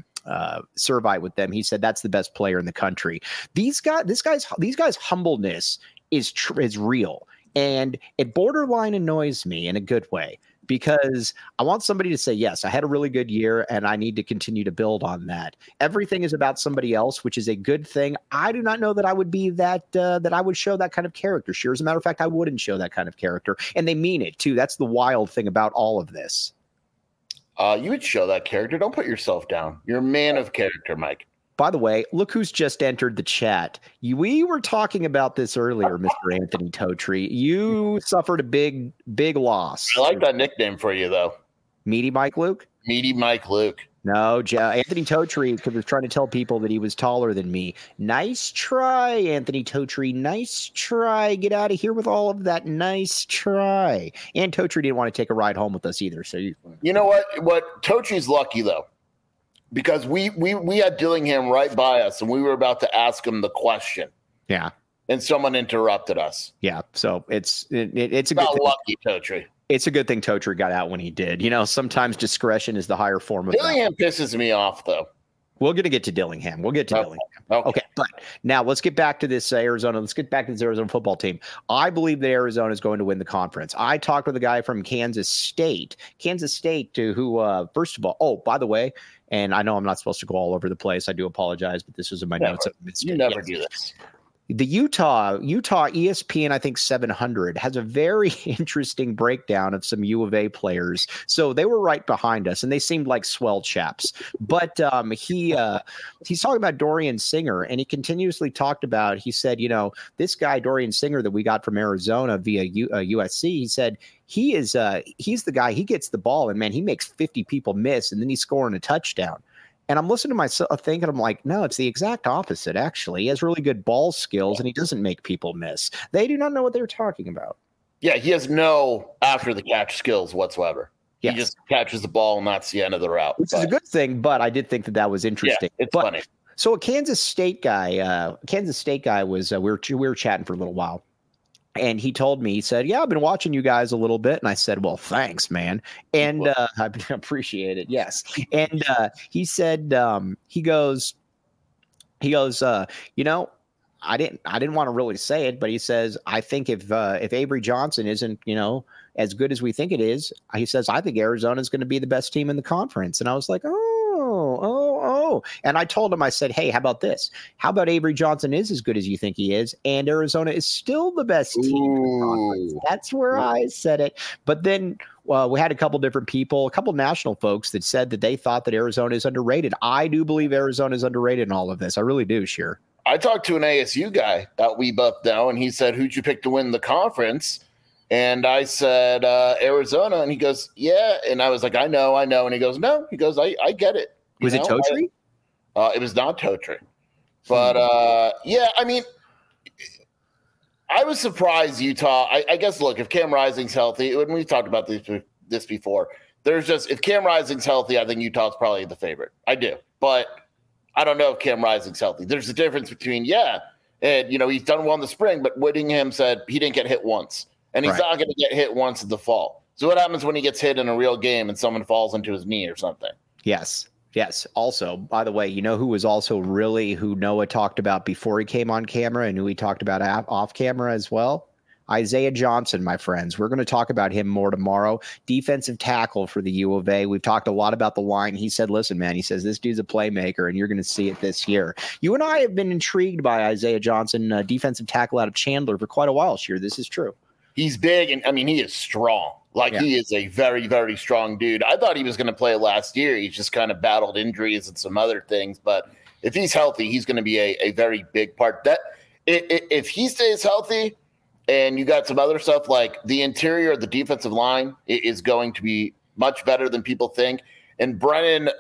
Servite with them. He said, that's the best player in the country. These guys' humbleness is real. And it borderline annoys me in a good way, because I want somebody to say, yes, I had a really good year and I need to continue to build on that. Everything is about somebody else, which is a good thing. I do not know that I would be that I would show that kind of character. Sure. As a matter of fact, I wouldn't show that kind of character. And they mean it too. That's the wild thing about all of this. You would show that character. Don't put yourself down. You're a man of character, Mike. By the way, look who's just entered the chat. We were talking about this earlier, Mr. Anthony Totri. You suffered a big loss. I like that nickname for you, though. Meaty Mike Luke? Meaty Mike Luke. No, Anthony Totri was trying to tell people that he was taller than me. Nice try, Anthony Totri. Nice try. Get out of here with all of that. Nice try. And Totri didn't want to take a ride home with us either. So you know what? Totri's lucky, though. Because we had Dillingham right by us, and we were about to ask him the question. Yeah, and someone interrupted us. Yeah, so it's a good thing. Lucky, Totri. It's a good thing Totri got out when he did. Sometimes discretion is the higher form of Dillingham pisses me off, though. We're going to get to Dillingham. Dillingham. Okay, but now let's get back to this Arizona. Let's get back to this Arizona football team. I believe that Arizona is going to win the conference. I talked with a guy from Kansas State, who, first of all, oh, by the way, and I know I'm not supposed to go all over the place. I do apologize, but this was in my notes. You never do this. The Utah ESPN, I think 700, has a very interesting breakdown of some U of A players. So they were right behind us, and they seemed like swell chaps. But he's talking about Dorian Singer, and he continuously talked about, he said, this guy, Dorian Singer, that we got from Arizona via USC, he said, he's the guy, he gets the ball, and, man, he makes 50 people miss, and then he's scoring a touchdown. And I'm listening to myself thinking, I'm like, no, it's the exact opposite, actually. He has really good ball skills, and he doesn't make people miss. They do not know what they're talking about. Yeah, he has no after-the-catch skills whatsoever. Yes. He just catches the ball, and that's the end of the route. Which is a good thing, but I did think that was interesting. Yeah, it's funny. So a Kansas State guy was, we were chatting for a little while. And he told me, he said, yeah, I've been watching you guys a little bit. And I said, well, thanks, man. And I appreciate it. Yes. And he said, he goes, I didn't want to really say it, but he says, I think if Avery Johnson isn't, as good as we think it is, he says, I think Arizona is going to be the best team in the conference. And I was like, oh. And I told him, I said, hey, how about this? How about Avery Johnson is as good as you think he is, and Arizona is still the best team in the conference? That's where I said it. But then Well, we had a couple different people, a couple national folks that said that they thought that Arizona is underrated. I do believe Arizona is underrated in all of this. I really do, Sheer. I talked to an ASU guy that we both know, and he said, "Who'd you pick to win the conference?" And I said, Arizona. And he goes, "Yeah." And I was like, I know. And he goes, "No." He goes, I get it. Was it Totri? It was not Totri. But, yeah, I mean, I was surprised Utah. I guess, look, if Cam Rising's healthy, when we've talked about this before, if Cam Rising's healthy, I think Utah's probably the favorite. I do. But I don't know if Cam Rising's healthy. There's a difference between, and, he's done well in the spring, but Whittingham said he didn't get hit once. And he's not going to get hit once in the fall. So what happens when he gets hit in a real game and someone falls into his knee or something? Yes. Also, by the way, who was also who Noah talked about before he came on camera and who he talked about off camera as well? Isaiah Johnson, my friends. We're going to talk about him more tomorrow. Defensive tackle for the U of A. We've talked a lot about the line. He said, listen, man, this dude's a playmaker, and you're going to see it this year. You and I have been intrigued by Isaiah Johnson, defensive tackle out of Chandler, for quite a while this year. This is true. He's big, and, he is strong. He is a very, very strong dude. I thought he was going to play last year. He's just kind of battled injuries and some other things. But if he's healthy, he's going to be a very big part. If he stays healthy and you got some other stuff, like the interior of the defensive line is going to be much better than people think. And Brennan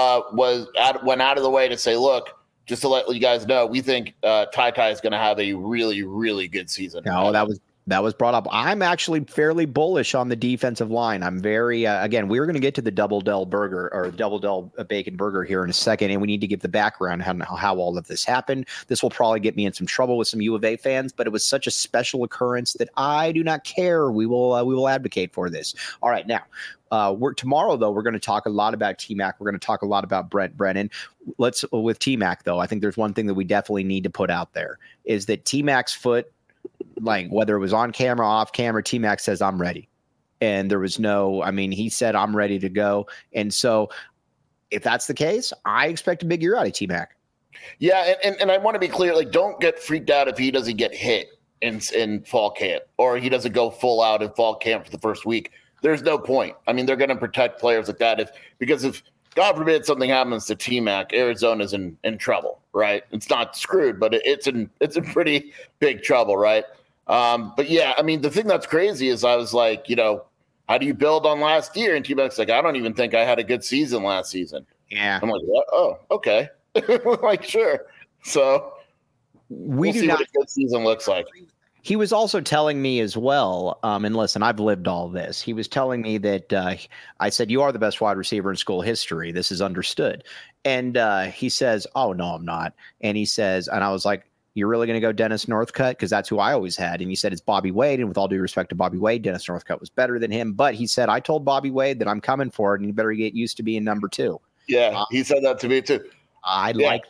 went out of the way to say, look, just to let you guys know, we think Ty is going to have a really, really good season. No, that was brought up. I'm actually fairly bullish on the defensive line. I'm very, again, we're going to get to the Double Del burger or Double Del bacon burger here in a second, and we need to give the background how all of this happened. This will probably get me in some trouble with some U of A fans, but it was such a special occurrence that I do not care. We will advocate for this. All right, now. Tomorrow, though, we're going to talk a lot about T-Mac. We're going to talk a lot about Brent Brennan. With T-Mac, though, I think there's one thing that we definitely need to put out there is that T-Mac's foot, whether it was on camera, off camera, T-Mac says, I'm ready. And there was he said, I'm ready to go. And so if that's the case, I expect a big year out of T-Mac. Yeah. And I want to be clear, don't get freaked out if he doesn't get hit in fall camp or he doesn't go full out in fall camp for the first week. There's no point. They're going to protect players like that because if God forbid something happens to T-Mac, Arizona's in trouble, right? It's not screwed, but it's in pretty big trouble, right? But yeah, the thing that's crazy is I was like, how do you build on last year? And T-Mac's like, I don't even think I had a good season last season. Yeah. I'm like, what? Oh, okay. Sure. So we'll see what a good season looks like. He was also telling me as well, and listen, I've lived all this. He was telling me that I said, you are the best wide receiver in school history. This is understood. And he says, oh, no, I'm not. And he says, and I was like, you're really going to go Dennis Northcutt? Because that's who I always had. And he said, it's Bobby Wade. And with all due respect to Bobby Wade, Dennis Northcutt was better than him. But he said, I told Bobby Wade that I'm coming for it, and you better get used to being number two. Yeah, he said that to me too. Like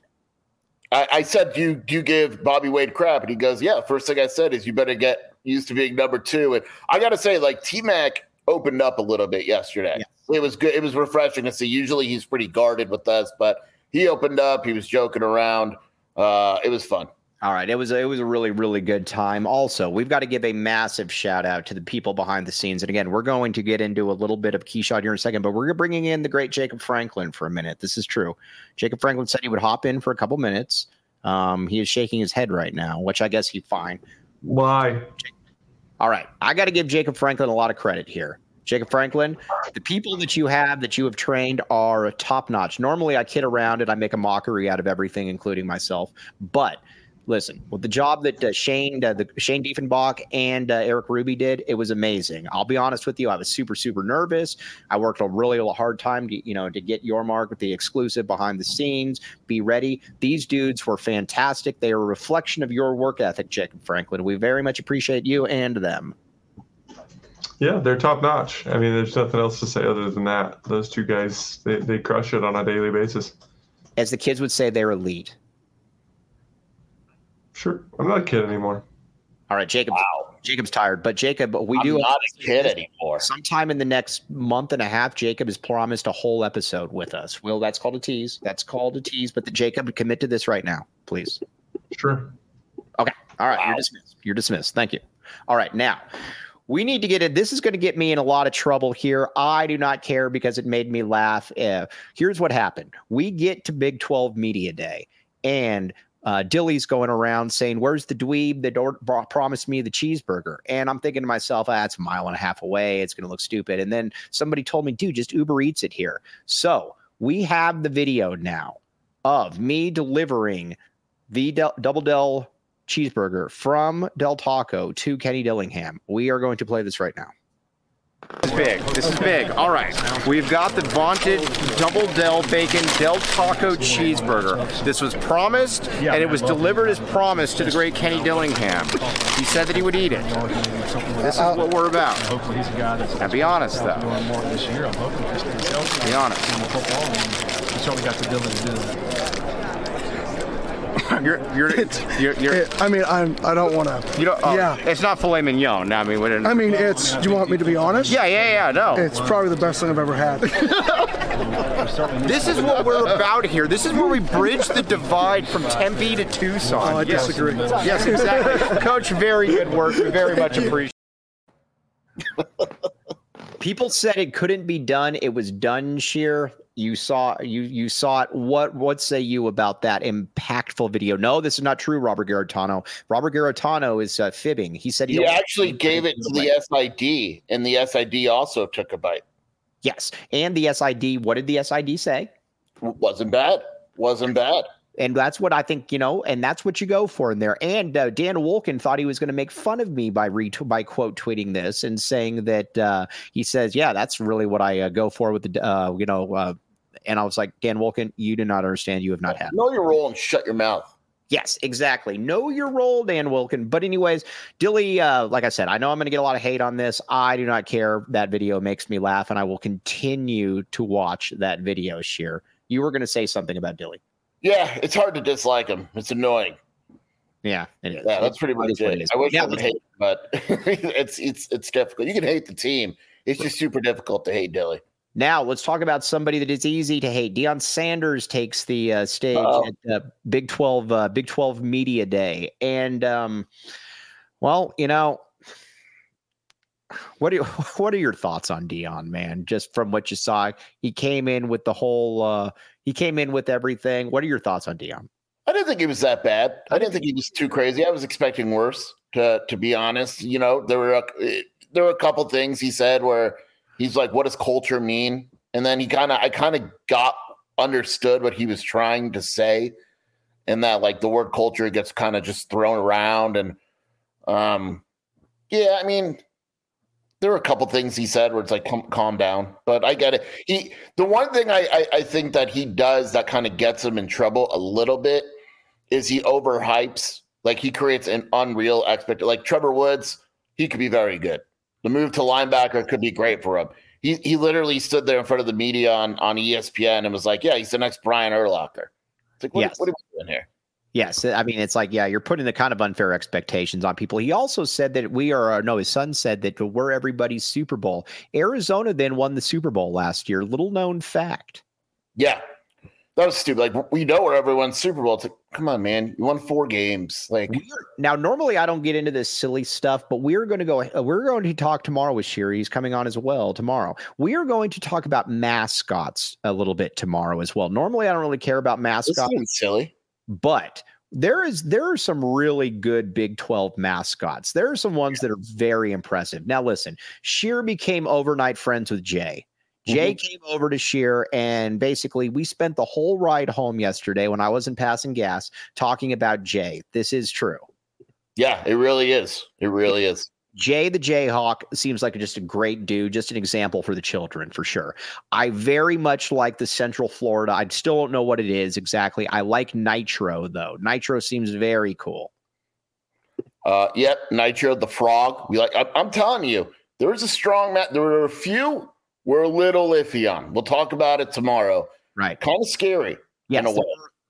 I said, do you give Bobby Wade crap? And he goes, yeah, first thing I said is you better get used to being number two. And I got to say, T-Mac opened up a little bit yesterday. Yeah. It was good. It was refreshing to see. Usually he's pretty guarded with us, but he opened up. He was joking around. It was fun. All right. It was a really, really good time. Also, we've got to give a massive shout out to the people behind the scenes. And again, we're going to get into a little bit of Keyshot here in a second, but we're bringing in the great Jacob Franklin for a minute. This is true. Jacob Franklin said he would hop in for a couple minutes. He is shaking his head right now, which I guess he's fine. Why? All right. I got to give Jacob Franklin a lot of credit here. Jacob Franklin, the people that you have trained are top notch. Normally I kid around and I make a mockery out of everything, including myself. But listen, with the job that Shane Diefenbach and Eric Ruby did, it was amazing. I'll be honest with you. I was super, super nervous. I worked a really hard time to get your mark with the exclusive behind the scenes. Be ready. These dudes were fantastic. They are a reflection of your work ethic, Jacob Franklin. We very much appreciate you and them. Yeah, they're top notch. There's nothing else to say other than that. Those two guys, they crush it on a daily basis. As the kids would say, they're elite. Sure. I'm not a kid anymore. All right, Jacob. Wow. Jacob's tired, but Jacob, I'm not a kid anymore. Sometime in the next month and a half, Jacob has promised a whole episode with us. Will, that's called a tease. But Jacob, commit to this right now, please. Sure. Okay. All right. Wow. You're dismissed. Thank you. All right. Now, We need to get it. This is going to get me in a lot of trouble here. I do not care because it made me laugh. Here's what happened. We get to Big 12 Media Day, and Dilly's going around saying, where's the dweeb that promised me the cheeseburger? And I'm thinking to myself, it's a mile and a half away. It's going to look stupid. And then somebody told me, dude, just Uber Eats it here. So we have the video now of me delivering the Double Del cheeseburger from Del Taco to Kenny Dillingham. We are going to play this right now. This is big. This is big. All right. We've got the vaunted Double Del Bacon Del Taco cheeseburger. This was promised, and it was delivered as promised to the great Kenny Dillingham. He said that he would eat it. This is what we're about. Now, be honest, though. Be honest. I don't want to. You don't. It's not filet mignon. I mean, it's. Do you want me to be honest? Yeah. No. It's probably the best thing I've ever had. This is what we're about here. This is where we bridge the divide from Tempe to Tucson. I disagree. Yes, exactly. Coach, very good work. We very much appreciate it. People said it couldn't be done. It was done, Sheer. You saw it. What say you about that impactful video? No, this is not true, Robert Garantano. Robert Garantano is fibbing. He said he actually gave it to the SID, and the SID also took a bite. Yes, and the SID. What did the SID say? Wasn't bad. And that's what I think, and that's what you go for in there. And Dan Wolken thought he was going to make fun of me by quote tweeting this and saying that he says, yeah, that's really what I go for with the, and I was like, Dan Wolken, you do not understand. You have not had. Know your role and shut your mouth. Yes, exactly. Know your role, Dan Wolken. But anyways, Dilly, like I said, I know I'm going to get a lot of hate on this. I do not care. That video makes me laugh, and I will continue to watch that video, Sheer. You were going to say something about Dilly. Yeah, it's hard to dislike him. It's annoying. Yeah, it is. Yeah, that's pretty much it. I wish I would hate him, but it's difficult. You can hate the team. It's just super difficult to hate Dilly. Now let's talk about somebody that is easy to hate. Deion Sanders takes the stage at Big 12 Media Day, and what are your thoughts on Deion, man? Just from what you saw, he came in with the whole. He came in with everything. What are your thoughts on Deion? I didn't think he was that bad. I didn't think he was too crazy. I was expecting worse, to be honest. There were a couple things he said where he's like, "What does culture mean?" And then I kind of understood what he was trying to say, and that like the word culture gets kind of just thrown around. And I mean, there were a couple things he said where it's like, calm down. But I get it. The one thing I think that he does that kind of gets him in trouble a little bit is he overhypes. Like he creates an unreal expectation. Like Trevor Woods, he could be very good. The move to linebacker could be great for him. He literally stood there in front of the media on ESPN and was like, yeah, he's the next Brian Urlacher. It's like, what are we doing here? Yes. I mean, it's like, you're putting the kind of unfair expectations on people. He also said that his son said that we're everybody's Super Bowl. Arizona then won the Super Bowl last year. Little known fact. Yeah. That was stupid. Like, we know we're everyone's Super Bowl. It's like, come on, man. You won 4 games. Like, now, normally I don't get into this silly stuff, but we're going to talk tomorrow with Sherry. He's coming on as well tomorrow. We are going to talk about mascots a little bit tomorrow as well. Normally, I don't really care about mascots. This is silly. But there are some really good Big 12 mascots. There are some ones that are very impressive. Now, listen, Sheer became overnight friends with Jay. Jay came over to Sheer, and basically we spent the whole ride home yesterday when I wasn't passing gas talking about Jay. This is true. Yeah, it really is. It really is. Jay the Jayhawk seems like just a great dude, just an example for the children, for sure. I very much like the Central Florida. I still don't know what it is exactly. I like Nitro, though. Nitro seems very cool. Yep, Nitro, the frog. I'm telling you, there was a strong match. There were a few we're a little iffy on. We'll talk about it tomorrow. Right. Kind of scary. Yes.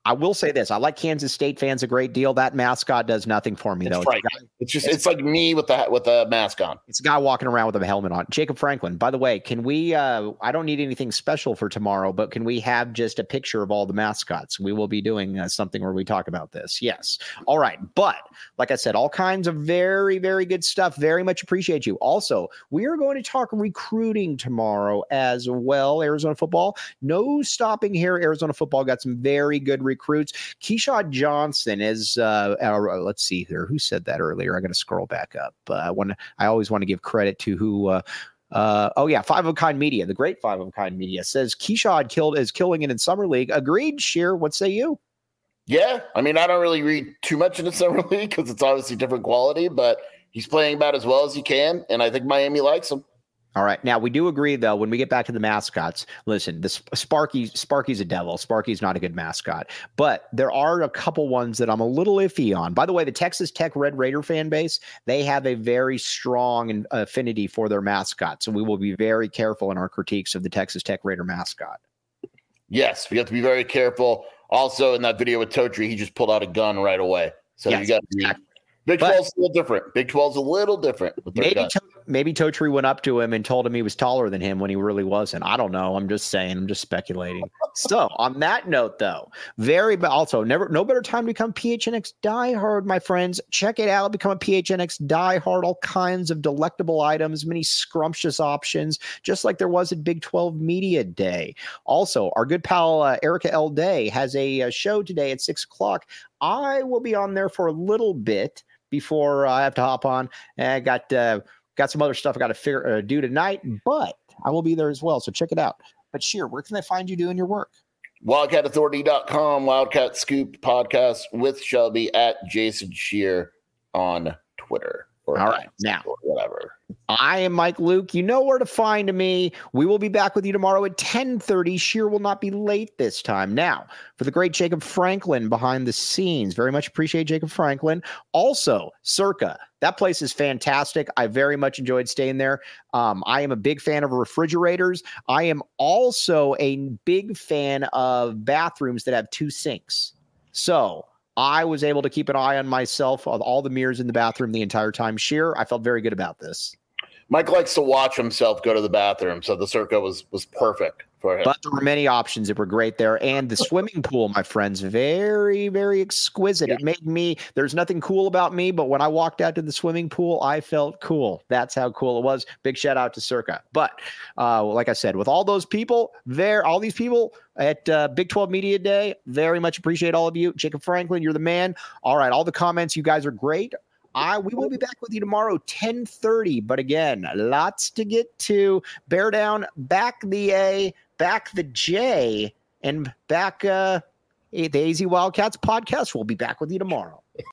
I will say this. I like Kansas State fans a great deal. That mascot does nothing for me, though. It's like me with the mask on. It's a guy walking around with a helmet on. Jacob Franklin, by the way, can we I don't need anything special for tomorrow, but can we have just a picture of all the mascots? We will be doing something where we talk about this. Yes. All right. But like I said, all kinds of very, very good stuff. Very much appreciate you. Also, we are going to talk recruiting tomorrow as well. Arizona football. No stopping here. Arizona football got some very good recruits. Keyshawn Johnson is, let's see here. Who said that earlier? I got to scroll back up. I always want to give credit to who. Five of a Kind Media, the great Five of a Kind Media says Keyshawn is killing it in summer league. Agreed, Sheer. What say you? Yeah, I mean, I don't really read too much into summer league because it's obviously different quality, but he's playing about as well as he can, and I think Miami likes him. All right. Now, we do agree, though, when we get back to the mascots, listen, Sparky's a devil. Sparky's not a good mascot. But there are a couple ones that I'm a little iffy on. By the way, the Texas Tech Red Raider fan base, they have a very strong affinity for their mascot. So we will be very careful in our critiques of the Texas Tech Raider mascot. Yes, we have to be very careful. Also, in that video with Totri, he just pulled out a gun right away. So yes, you got to be exactly. Big 12's a little different. Big 12's a little different. Maybe Totri went up to him and told him he was taller than him when he really wasn't. I don't know. I'm just saying. I'm just speculating. So on that note, though, no better time to become PHNX diehard, my friends. Check it out. Become a PHNX diehard. All kinds of delectable items, many scrumptious options, just like there was at Big 12 Media Day. Also, our good pal Erica L. Day has a show today at 6:00. I will be on there for a little bit before I have to hop on. I got some other stuff I got to do tonight, but I will be there as well. So check it out. But Sheer, where can they find you doing your work? WildcatAuthority.com, Wildcat Scoop podcast with Shelby at Jason Sheer on Twitter. All right. Now, whatever. I am Mike Luke. You know where to find me. We will be back with you tomorrow at 10:30. Sheer will not be late this time. Now, for the great Jacob Franklin behind the scenes, very much appreciate Jacob Franklin. Also, Circa. That place is fantastic. I very much enjoyed staying there. I am a big fan of refrigerators. I am also a big fan of bathrooms that have 2 sinks. So I was able to keep an eye on myself, on all the mirrors in the bathroom the entire time. Sheer, I felt very good about this. Mike likes to watch himself go to the bathroom, so the Circa was perfect for him. But there were many options that were great there. And the swimming pool, my friends, very, very exquisite. Yeah. It made me, there's nothing cool about me, but when I walked out to the swimming pool, I felt cool. That's how cool it was. Big shout out to Circa. But like I said, with all those people there, all these people at Big 12 Media Day, very much appreciate all of you. Jacob Franklin, you're the man. All right, all the comments, you guys are great. We will be back with you tomorrow, 10:30. But again, lots to get to. Bear down, back the A, back the J, and back the AZ Wildcats podcast. We'll be back with you tomorrow.